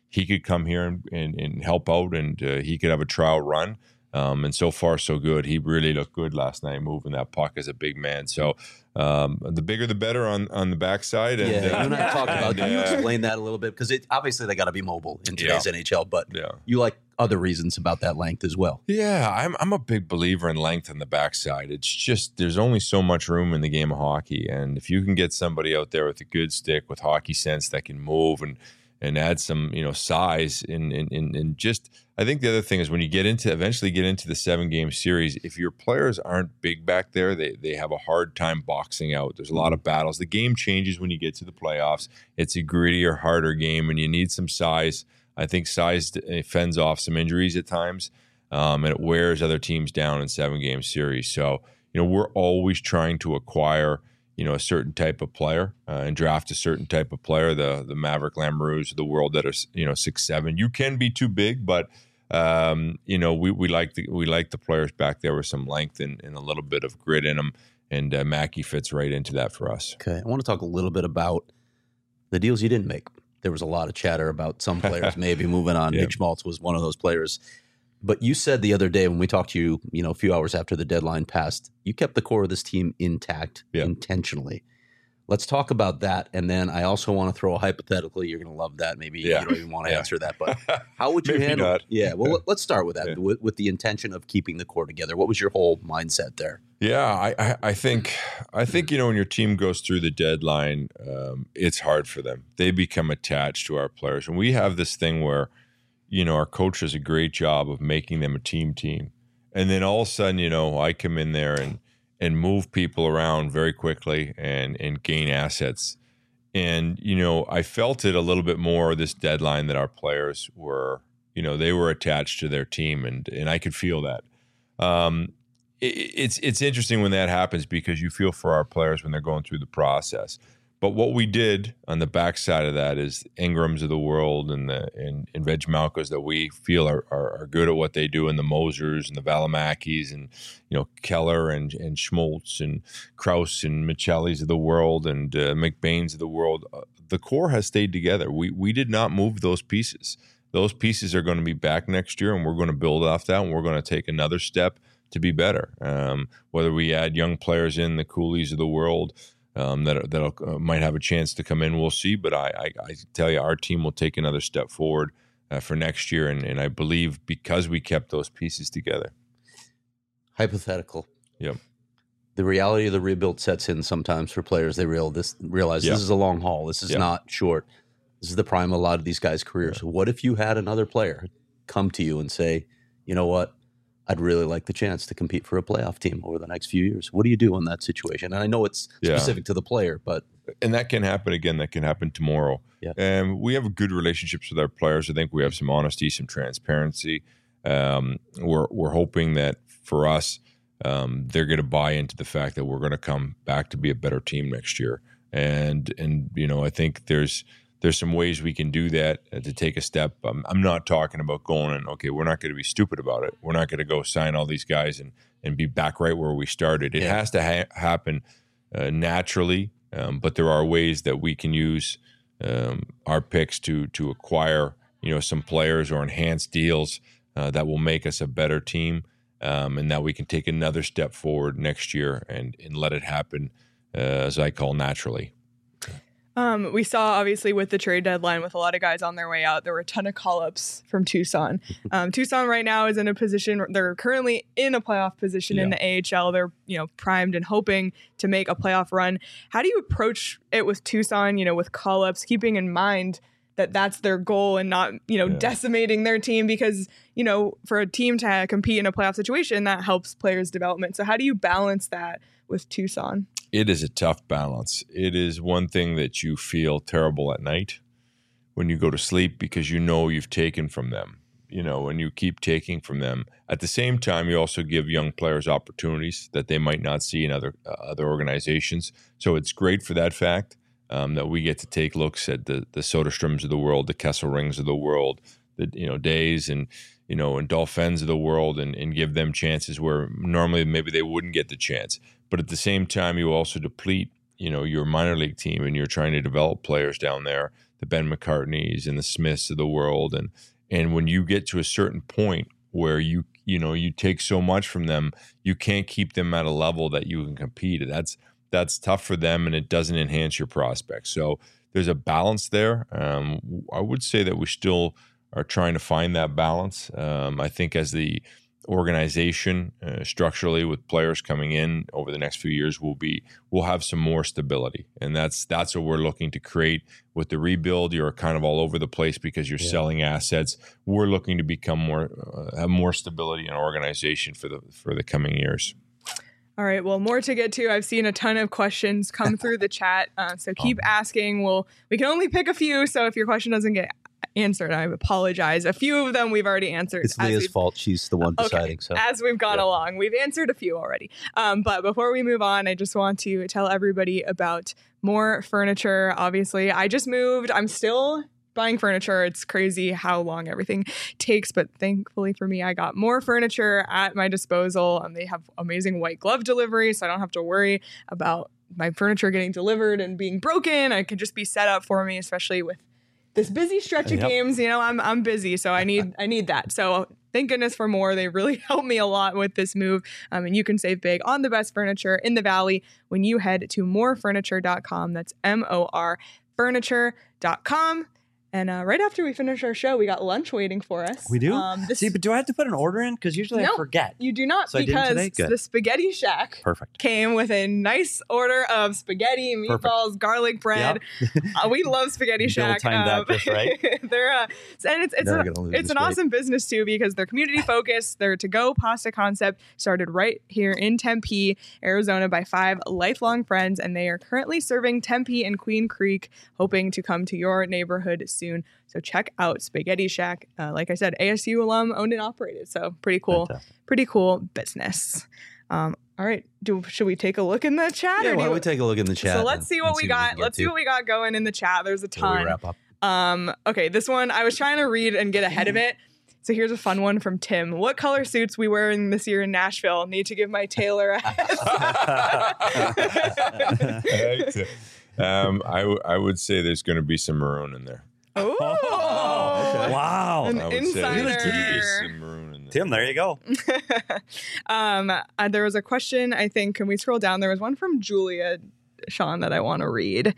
he could come here and, and, and help out, and uh, he could have a trial run. Um, and so far, so good. He really looked good last night moving that puck as a big man. So um, the bigger, the better on, on the backside. And, yeah, uh, you and I talked about. Can you uh, explain that a little bit? Because obviously they got to be mobile in today's Yeah. N H L, but Yeah. you like other reasons about that length as well. Yeah, I'm I'm a big believer in length on the backside. It's just there's only so much room in the game of hockey, and if you can get somebody out there with a good stick, with hockey sense that can move and and add some you know size in in in, in just. I think the other thing is when you get into eventually get into the seven game series, if your players aren't big back there, they they have a hard time boxing out. There's a lot of battles. The game changes when you get to the playoffs. It's a grittier, harder game, and you need some size. I think size fends off some injuries at times, um, and it wears other teams down in seven game series. So you know we're always trying to acquire you know a certain type of player uh, and draft a certain type of player. The the Maverick Lamoureux of the world that are you know six seven. You can be too big, but Um, you know, we, we like the we like the players back there with some length and, and a little bit of grit in them, and uh, Mackey fits right into that for us. Okay, I want to talk a little bit about the deals you didn't make. There was a lot of chatter about some players maybe moving on. Yeah. Nick Schmaltz was one of those players. But you said the other day when we talked to you, you know, a few hours after the deadline passed, you kept the core of this team intact Yeah. intentionally. Let's talk about that. And then I also want to throw a hypothetical. You're going to love that. Maybe Yeah. you don't even want to Yeah. answer that. But how would you Maybe handle not. it? Yeah. Well, let- let's start with that, Yeah. with, with the intention of keeping the core together. What was your whole mindset there? Yeah, I, I, I think I think you know when your team goes through the deadline, um, it's hard for them. They become attached to our players, and we have this thing where, you know, our coach does a great job of making them a team team, and then all of a sudden, you know, I come in there and and move people around very quickly and and gain assets, and you know, I felt it a little bit more this deadline that our players were, you know, they were attached to their team, and and I could feel that. Um, It's it's interesting when that happens because you feel for our players when they're going through the process. But what we did on the backside of that is Ingrams of the world and the and, and Reg Malkos that we feel are, are are good at what they do, and the Mosers and the Valimakis and you know Keller and and Schmaltz and Krause and Michelli's of the world and uh, McBain's of the world. Uh, the core has stayed together. We we did not move those pieces. Those pieces are going to be back next year, and we're going to build off that, and we're going to take another step to be better. Um, whether we add young players in, the Coolies of the world um, that that uh, might have a chance to come in, we'll see. But I, I, I tell you, our team will take another step forward uh, for next year, and, and I believe because we kept those pieces together. Hypothetical. Yep. The reality of the rebuild sets in sometimes for players. They real this realize Yeah. this is a long haul. This is Yeah. not short. This is the prime of a lot of these guys' careers. What if you had another player come to you and say, you know what, I'd really like the chance to compete for a playoff team over the next few years. What do you do in that situation? And I know it's Yeah. specific to the player, but And that can happen again. That can happen tomorrow. Yeah. And we have good relationships with our players. I think we have some honesty, some transparency. Um, we're we're hoping that for us, um, they're going to buy into the fact that we're going to come back to be a better team next year. And and you know, I think there's there's some ways we can do that uh, to take a step. Um, I'm not talking about going and okay, we're not going to be stupid about it. We're not going to go sign all these guys and and be back right where we started. It Yeah. has to ha- happen uh, naturally. Um, but there are ways that we can use um, our picks to to acquire, you know, some players or enhance deals uh, that will make us a better team, um, and that we can take another step forward next year and and let it happen, uh, as I call naturally. Um, we saw obviously with the trade deadline, with a lot of guys on their way out, there were a ton of call-ups from Tucson. Um, Tucson right now is in a position; they're currently in a playoff position in Yeah. the A H L. They're you know primed and hoping to make a playoff run. How do you approach it with Tucson? You know, with call-ups, keeping in mind that that's their goal and not you know Yeah. decimating their team, because you know for a team to compete in a playoff situation, that helps players' development. So how do you balance that with Tucson? It is a tough balance. It is one thing that you feel terrible at night when you go to sleep because you know you've taken from them, you know, and you keep taking from them. At the same time, you also give young players opportunities that they might not see in other uh, other organizations. So it's great for that fact um, that we get to take looks at the the Soderstroms of the world, the Kesselrings of the world, the you know Days and you know and Dolphins of the world, and, and give them chances where normally maybe they wouldn't get the chance. But at the same time, you also deplete, you know, your minor league team, and you're trying to develop players down there the Ben McCartneys and the Smiths of the world. And, and when you get to a certain point where you, you know, you take so much from them, you can't keep them at a level that you can compete. That's, that's tough for them, and it doesn't enhance your prospects. So there's a balance there. Um, I would say that we still are trying to find that balance. Um, I think as the organization uh, structurally with players coming in over the next few years will be we'll have some more stability, and that's that's what we're looking to create with the rebuild. You're kind of all over the place because you're yeah. selling assets. We're looking to become more uh, have more stability in our organization for the for the coming years. All right, well, more to get to. I've seen a ton of questions come through the chat, uh, so keep asking. We'll we can only pick a few, so if your question doesn't get answered, I apologize. A few of them we've already answered. It's Leah's fault. She's the one deciding. Okay. So as we've gone yeah. along, we've answered a few already. Um, but before we move on, I just want to tell everybody about More Furniture. Obviously, I just moved. I'm still buying furniture. It's crazy how long everything takes, but thankfully for me, I got More Furniture at my disposal, and they have amazing white glove delivery, so I don't have to worry about my furniture getting delivered and being broken. It could just be set up for me, especially with this busy stretch of yep. games. You know, I'm I'm busy, so I need I need that. So thank goodness for More. They really helped me a lot with this move. Um, and you can save big on the best furniture in the Valley when you head to more furniture dot com. That's M O R furniture dot com. And uh, right after we finish our show, we got lunch waiting for us. We do? Um, this, See, but do I have to put an order in? Because usually no, I forget. You do not, so because the Spaghetti Shack Perfect. came with a nice order of spaghetti, meatballs, Perfect. garlic bread. Yep. uh, we love Spaghetti Shack. Bill timed um, that just right. they're, uh, and it's, it's, a, it's an awesome business, too, because they're community focused. Their to-go pasta concept started right here in Tempe, Arizona, by five lifelong friends, and they are currently serving Tempe and Queen Creek, hoping to come to your neighborhood soon. So check out Spaghetti Shack. Uh, like I said, A S U alum, owned and operated. So pretty cool, Fantastic. pretty cool business. Um, all right, do should we take a look in the chat? Yeah, why don't we take a look in the chat? So let's see what we see got. What we let's to. see what we got going in the chat. There's a ton. We wrap up. Um, okay, this one I was trying to read and get ahead of it. So here's a fun one from Tim. What color suits we wearing this year in Nashville? Need to give my tailor a heads up. um, I, w- I would say there's going to be some maroon in there. Oh, okay. Wow. An I would insider. Say there's some maroon in there. Tim, there you go. um, uh, there was a question, I think, can we scroll down? There was one from Julia, Sean, that I want to read.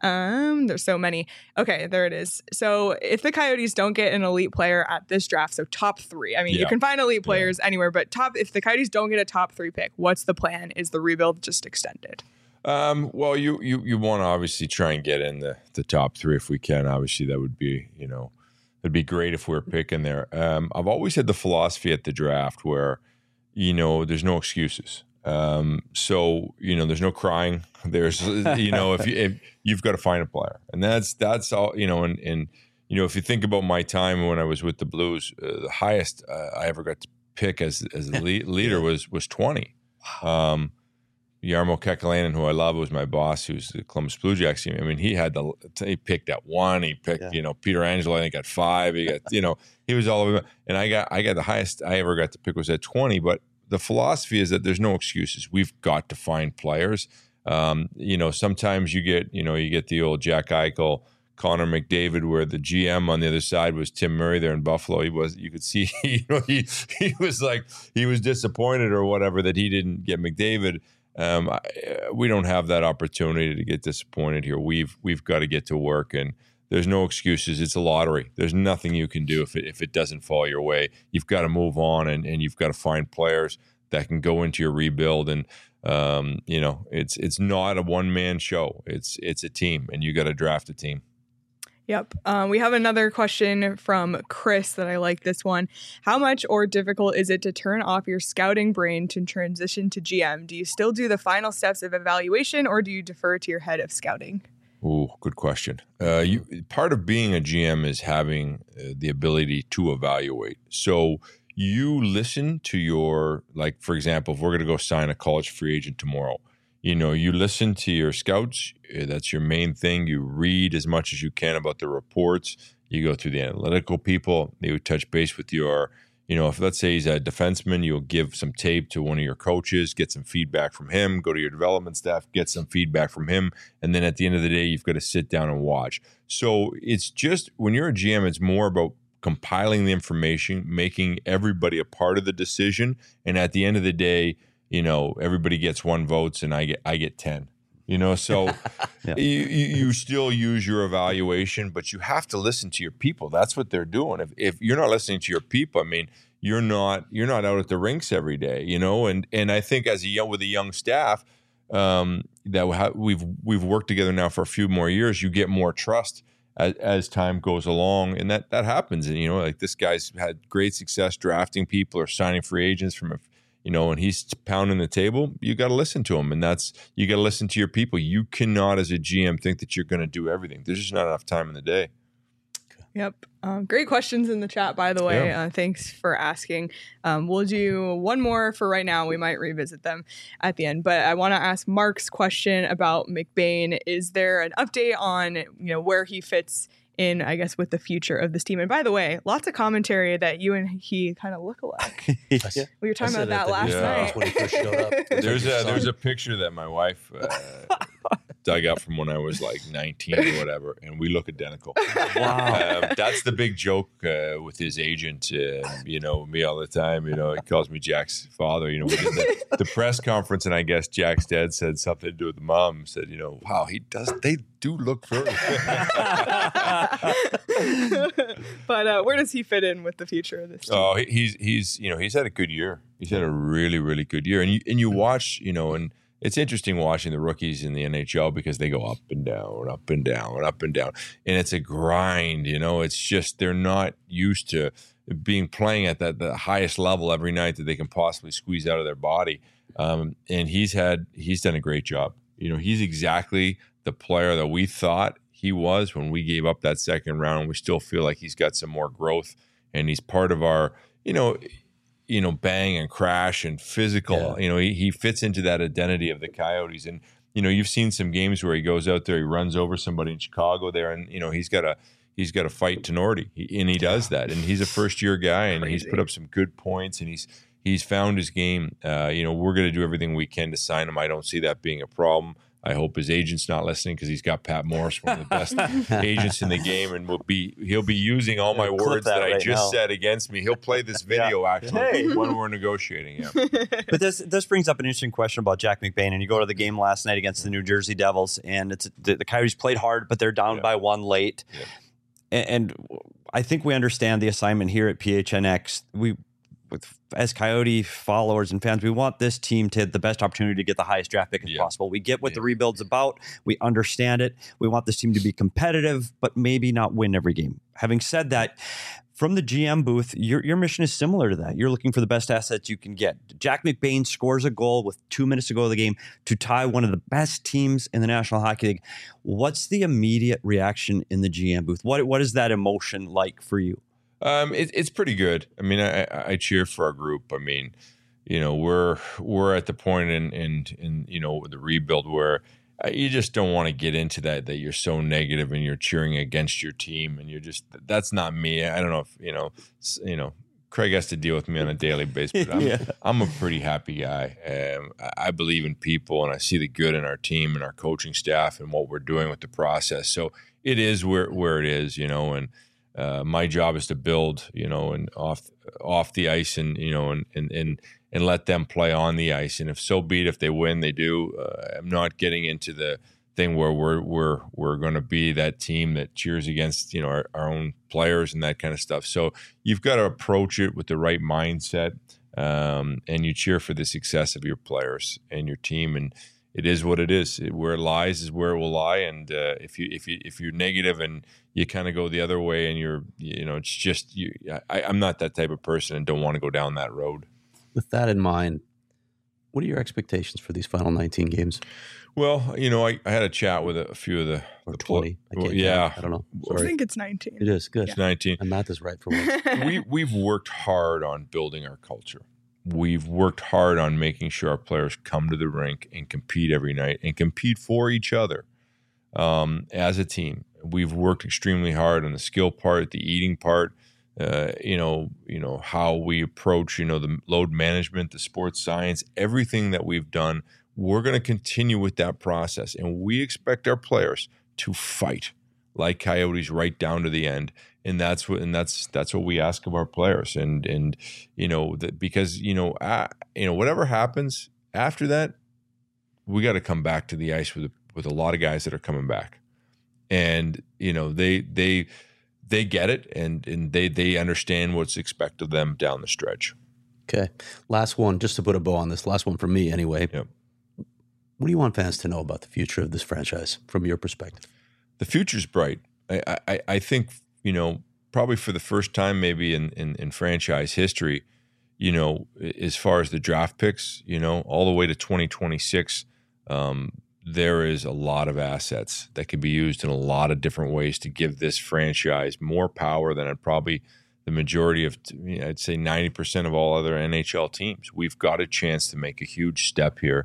Um, there's so many. Okay, there it is. So if the Coyotes don't get an elite player at this draft, so top three, I mean, yeah. you can find elite players yeah. anywhere, but top, if the Coyotes don't get a top three pick, what's the plan? Is the rebuild just extended? Um, well, you, you, you want to obviously try and get in the, the top three if we can. Obviously, that would be, you know, it'd be great if we we're picking there. Um, I've always had the philosophy at the draft where, you know, there's no excuses. Um, so, you know, there's no crying. There's, you know, if, you, if you've got to find a player, and that's, that's all, you know, and, and, you know, if you think about my time when I was with the Blues, uh, the highest uh, I ever got to pick as, as a lead, leader was, was twenty. Um, Jarmo Kekalainen, who I love, was my boss, who's the Columbus Blue Jackets team. I mean, he had the he picked at one. He picked, yeah. you know, Peter Angelo, I think, at five. He got, you know, he was all over. And I got I got the highest I ever got to pick was at twenty. But the philosophy is that there's no excuses. We've got to find players. Um, you know, sometimes you get, you know, you get the old Jack Eichel, Connor McDavid, where the G M on the other side was Tim Murray there in Buffalo. He was, you could see, you know, he he was like he was disappointed or whatever that he didn't get McDavid. Um, I, we don't have that opportunity to get disappointed here. We've we've got to get to work, and there's no excuses. It's a lottery. There's nothing you can do if it if it doesn't fall your way. You've got to move on, and, and you've got to find players that can go into your rebuild. And um, you know, it's it's not a one man show. It's it's a team, and you got to draft a team. Yep. Um, we have another question from Chris that I like this one. How much or difficult is it to turn off your scouting brain to transition to G M? Do you still do the final steps of evaluation, or do you defer to your head of scouting? Oh, good question. Uh, you, part of being a G M is having uh, the ability to evaluate. So you listen to your, like, for example, if we're going to go sign a college free agent tomorrow, you know, you listen to your scouts. That's your main thing. You read as much as you can about the reports. You go through the analytical people. They would touch base with your You know, if let's say he's a defenseman, you'll give some tape to one of your coaches, get some feedback from him, go to your development staff, get some feedback from him. And then at the end of the day, you've got to sit down and watch. So it's just, when you're a G M, it's more about compiling the information, making everybody a part of the decision. And at the end of the day, you know, everybody gets one votes and I get, I get ten. You know, so yeah. you, you still use your evaluation, but you have to listen to your people. That's what they're doing. If if you're not listening to your people, I mean, you're not you're not out at the rinks every day. You know, and and I think as a young with a young staff um, that we've we've worked together now for a few more years, you get more trust as, as time goes along, and that that happens. And you know, like this guy's had great success drafting people or signing free agents from a You know, and he's pounding the table, you got to listen to him. And that's, you got to listen to your people. You cannot, as a G M, think that you're going to do everything. There's just not enough time in the day. Yep. Um, great questions in the chat, by the way. Yeah. Uh, thanks for asking. Um, we'll do one more for right now. We might revisit them at the end. But I want to ask Mark's question about McBain. Is there an update on, you know, where he fits in, I guess, with the future of this team? And by the way, lots of commentary that you and he kind of look alike. Yeah. We were talking about that, that last yeah. night. When he first showed up. There's a there's a picture that my wife uh, dug up from when I was like nineteen or whatever, and we look identical. Wow. Um, that's the big joke uh, with his agent. Uh, you know, me all the time. You know, he calls me Jack's father. You know, we did the, the press conference, and I guess Jack's dad said something to do with the mom. Said, you know, wow, he does. They do look very. But uh, where does he fit in with the future of this team? Oh, he- he's he's you know he's had a good year. He's had a really really good year, and you and you watch you know and. It's interesting watching the rookies in the N H L because they go up and down, up and down, up and down. And it's a grind, you know. It's just they're not used to being playing at that the highest level every night that they can possibly squeeze out of their body. Um, and he's had he's done a great job. You know, he's exactly the player that we thought he was when we gave up that second round. We still feel like he's got some more growth, and he's part of our, you know, you know, bang and crash and physical. Yeah. You know, he, he fits into that identity of the Coyotes. And, you know, you've seen some games where he goes out there, he runs over somebody in Chicago there, and, you know, he's got a he's got to fight Tenorti. He, and he does that. And he's a first year guy, and Crazy. he's put up some good points, and he's he's found his game. Uh, you know, we're going to do everything we can to sign him. I don't see that being a problem. I hope his agent's not listening because he's got Pat Morris, one of the best agents in the game, and will be he'll be using all my Clip words that that, I right just now. said against me. He'll play this video actually Hey. when we're negotiating. Yeah. But this this brings up an interesting question about Jack McBain. And you go to the game last night against the New Jersey Devils, and it's the, the Coyotes played hard, but they're down Yeah. by one late. Yeah. And, and I think we understand the assignment here at P H N X. We, with as Coyote followers and fans, we want this team to have the best opportunity to get the highest draft pick as Yeah. possible. We get what the Yeah. rebuild's about. We understand it. We want this team to be competitive, but maybe not win every game. Having said that, from the G M booth, your your mission is similar to that. You're looking for the best assets you can get. Jack McBain scores a goal with two minutes to go of the game to tie one of the best teams in the National Hockey League. What's the immediate reaction in the G M booth? What what is that emotion like for you? Um, it, it's pretty good. I mean, I, I cheer for our group. I mean, you know, we're we're at the point in in, in you know the rebuild where uh, you just don't want to get into that that you're so negative and you're cheering against your team, and you're just that's not me. I don't know if you know s- you know Craig has to deal with me on a daily basis, but I'm, Yeah. I'm a pretty happy guy. Um, I I believe in people, and I see the good in our team and our coaching staff and what we're doing with the process. So it is where where it is, you know, and. Uh, my job is to build, you know, and off off the ice, and you know, and and and, and let them play on the ice. And if so be it, if they win, they do. Uh, I'm not getting into the thing where we're we're we're going to be that team that cheers against, you know, our, our own players and that kind of stuff. So you've got to approach it with the right mindset, um, and you cheer for the success of your players and your team. And it is what it is. Where it lies is where it will lie. And uh, if you if you if you're negative and you kind of go the other way, and you're you know it's just you. I, I'm not that type of person, and don't want to go down that road. With that in mind, what are your expectations for these final nineteen games? Well, you know, I, I had a chat with a, a few of the, Or the twenty? I Well, can't yeah, count. I don't know. I Sorry. think it's nineteen. It is. Good. it's nineteen. My math is right for once. we we've worked hard on building our culture. We've worked hard on making sure our players come to the rink and compete every night and compete for each other um, as a team. We've worked extremely hard on the skill part, the eating part, uh, you know, you know how we approach, you know, the load management, the sports science, everything that we've done. We're going to continue with that process, and we expect our players to fight like Coyotes right down to the end. And that's what, and that's that's what we ask of our players. And and you know that because you know uh, you know whatever happens after that, we got to come back to the ice with with a lot of guys that are coming back, and you know they they they get it, and and they they understand what's expected of them down the stretch. Okay, last one, just to put a bow on this. Last one from me, anyway. Yep. What do you want fans to know about the future of this franchise from your perspective? The future's bright. I I, I think you know probably for the first time maybe in, in in franchise history, you know, as far as the draft picks, you know, all the way to twenty twenty-six. Um, there is a lot of assets that can be used in a lot of different ways to give this franchise more power than it probably the majority of, I'd say ninety percent of all other N H L teams. We've got a chance to make a huge step here.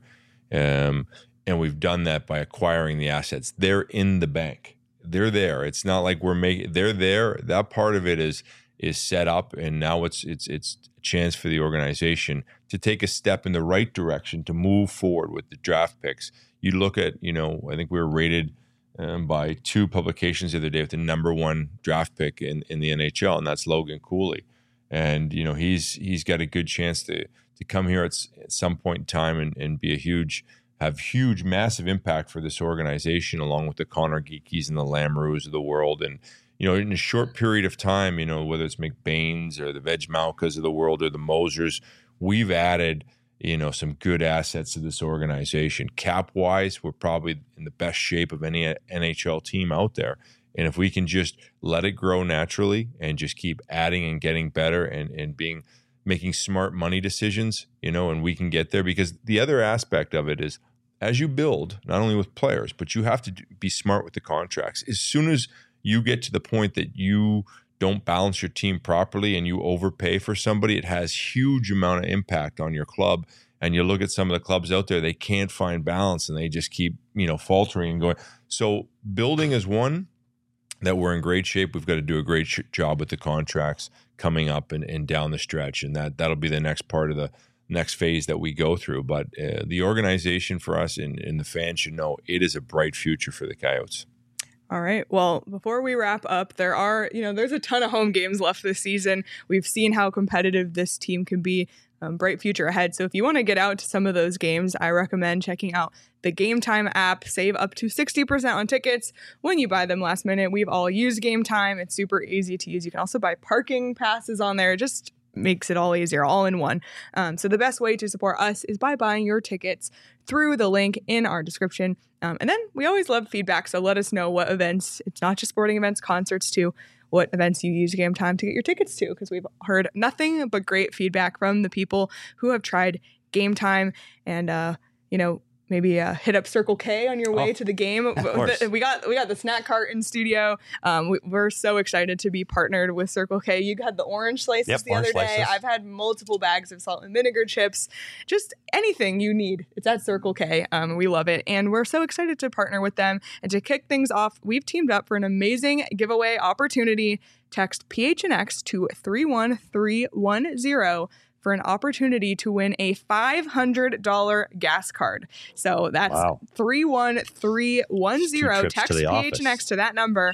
Um, and we've done that by acquiring the assets. They're in the bank. They're there. It's not like we're making, they're there. That part of it is, is set up. And now it's, it's, it's a chance for the organization to take a step in the right direction to move forward with the draft picks. You look at, you know, I think we were rated um, by two publications the other day with the number one draft pick in, in the N H L, and that's Logan Cooley. And, you know, he's he's got a good chance to to come here at, at some point in time and, and be a huge, have huge, massive impact for this organization, along with the Connor Geekies and the Lamoureux of the world. And, you know, in a short period of time, you know, whether it's McBain's or the Vejmelkas of the world or the Mosers, we've added, you know, some good assets to this organization. Cap-wise, we're probably in the best shape of any N H L team out there. And if we can just let it grow naturally and just keep adding and getting better and, and being making smart money decisions, you know, and we can get there. Because the other aspect of it is as you build, not only with players, but you have to be smart with the contracts. As soon as you get to the point that you don't balance your team properly and you overpay for somebody, it has huge amount of impact on your club. And you look at some of the clubs out there, they can't find balance and they just keep, you know, faltering and going. So building is one that we're in great shape. We've got to do a great sh- job with the contracts coming up and, and down the stretch. And that, that'll be the next part of the next phase that we go through. But uh, the organization for us and, and the fans should know it is a bright future for the Coyotes. All right. Well, before we wrap up, there are, you know, there's a ton of home games left this season. We've seen how competitive this team can be. Um, bright future ahead. So if you want to get out to some of those games, I recommend checking out the Game Time app. Save up to sixty percent on tickets when you buy them last minute. We've all used Game Time. It's super easy to use. You can also buy parking passes on there. It just makes it all easier, all in one. Um, so the best way to support us is by buying your tickets through the link in our description. Um, and then we always love feedback. So let us know what events, it's not just sporting events, concerts too, what events you use Game Time to get your tickets to, because we've heard nothing but great feedback from the people who have tried Game Time. And, uh, you know, maybe uh, hit up Circle K on your way oh, to the game. We got we got the snack cart in studio. Um, we, we're so excited to be partnered with Circle K. You had the orange slices yep, the orange other day. slices. I've had multiple bags of salt and vinegar chips. Just anything you need, it's at Circle K. Um, we love it. And we're so excited to partner with them. And to kick things off, we've teamed up for an amazing giveaway opportunity. Text P H N X to three one three one zero for an opportunity to win a five hundred dollars gas card. So that's wow. three one three one zero. Text P H N X to that number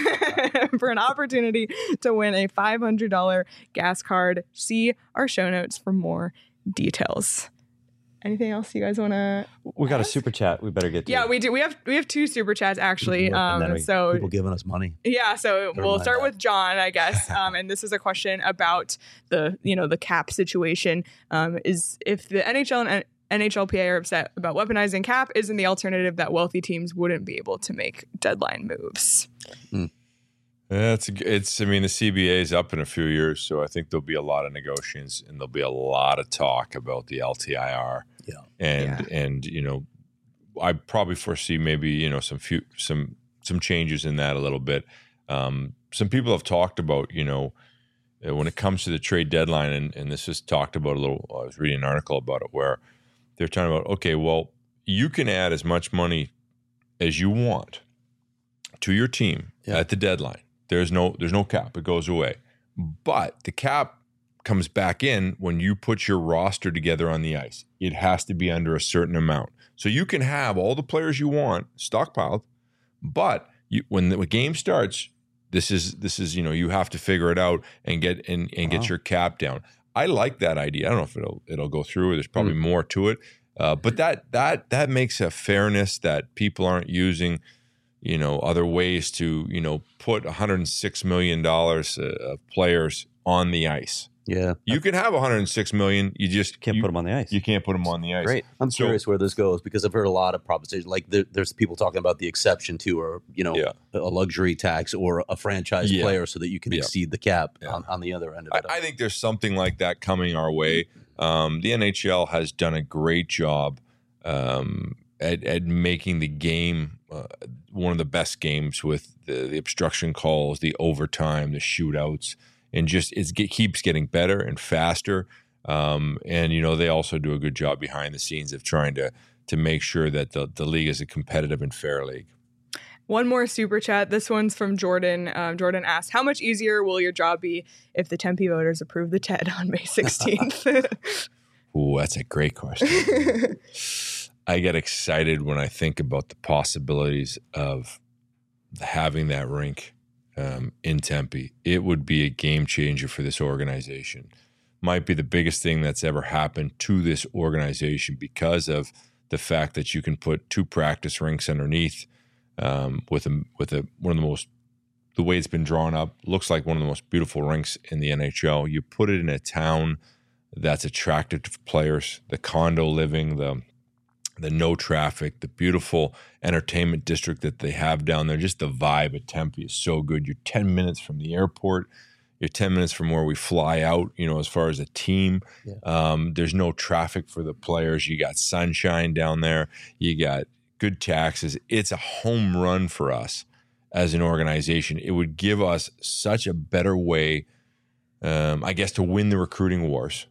for an opportunity to win a five hundred dollars gas card. See our show notes for more details. Anything else you guys want to? We got ask? a super chat. We better get to Yeah, it. we do. We have we have two super chats actually. Um, we, so people giving us money. Yeah, so Never we'll mind start that. with John, I guess. Um, and this is a question about the you know the cap situation. Um, is if the N H L and N H L P A are upset about weaponizing cap, isn't the alternative that wealthy teams wouldn't be able to make deadline moves? Mm. It's, it's, I mean, the C B A is up in a few years, so I think there'll be a lot of negotiations and there'll be a lot of talk about the L T I R. Yeah. And, Yeah. and, you know, I probably foresee maybe, you know, some few, some, some changes in that a little bit. Um, some people have talked about, you know, uh, when it comes to the trade deadline, and, and this is talked about a little, I was reading an article about it where they're talking about, okay, well, you can add as much money as you want to your team Yeah. at the deadline. There's no there's no cap. It goes away. But the cap comes back in when you put your roster together on the ice. It has to be under a certain amount. So you can have all the players you want stockpiled, but you, when the game starts, this is this is you know you have to figure it out and get and, and wow. get your cap down. I like that idea. I don't know if it'll it'll go through. There's probably mm. more to it, uh, but that that that makes a fairness that people aren't using. You know, other ways to you know put one hundred six million dollars of players on the ice. Yeah, you can have one hundred six million. You just can't you, put them on the ice. You can't put them on the ice. Great. I'm so, curious where this goes because I've heard a lot of propositions. Like there, there's people talking about the exception to, or you know, yeah. a luxury tax or a franchise yeah. player, so that you can yeah. exceed the cap yeah. on, on the other end of it. I, I think there's something like that coming our way. Um, the N H L has done a great job um, at, at making the game uh, one of the best games with the, the obstruction calls, the overtime, the shootouts. And just it's, it keeps getting better and faster. Um, and, you know, they also do a good job behind the scenes of trying to to make sure that the, the league is a competitive and fair league. One more super chat. This one's from Jordan. Um, Jordan asked, how much easier will your job be if the Tempe voters approve the T E D on May sixteenth? Ooh, that's a great question. I get excited when I think about the possibilities of having that rink Um, in Tempe. It would be a game changer for this organization. Might be the biggest thing that's ever happened to this organization because of the fact that you can put two practice rinks underneath um, with a with a one of the most the way it's been drawn up looks like one of the most beautiful rinks in the N H L. You put it in a town that's attractive to players, the condo living, the the no traffic, the beautiful entertainment district that they have down there. Just the vibe at Tempe is so good. You're ten minutes from the airport. You're ten minutes from where we fly out, you know, as far as a team. Yeah. Um, there's no traffic for the players. You got sunshine down there. You got good taxes. It's a home run for us as an organization. It would give us such a better way, um, I guess, to win the recruiting wars.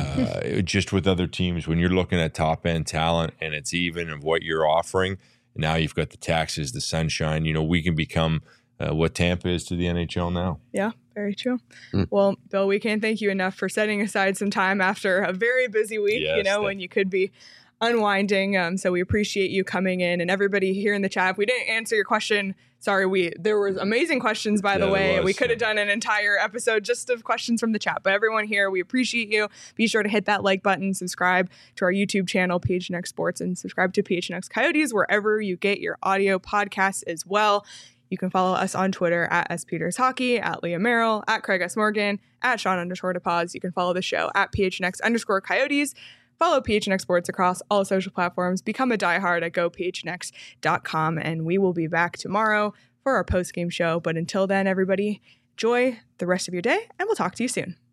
Uh, just with other teams, when you're looking at top end talent and it's even of what you're offering, now you've got the taxes, the sunshine. You know, we can become uh, what Tampa is to the N H L now. Yeah, very true. Mm. Well, Bill, we can't thank you enough for setting aside some time after a very busy week. Yes, you know, when you could be unwinding. Um, so we appreciate you coming in, and everybody here in the chat. If we didn't answer your question, sorry. We there was amazing questions, by yeah, the way. Was, we could have yeah. done an entire episode just of questions from the chat. But everyone here, we appreciate you. Be sure to hit that like button, subscribe to our YouTube channel, P H N X Sports, and subscribe to P H N X Coyotes wherever you get your audio podcasts as well. You can follow us on Twitter at S Peters Hockey, at Leah Merrill, at Craig S. Morgan, at Sean underscore DePaz. You can follow the show at P H N X underscore Coyotes. Follow P H N X Sports across all social platforms. Become a diehard at go P H N X dot com. And we will be back tomorrow for our post-game show. But until then, everybody, enjoy the rest of your day, and we'll talk to you soon.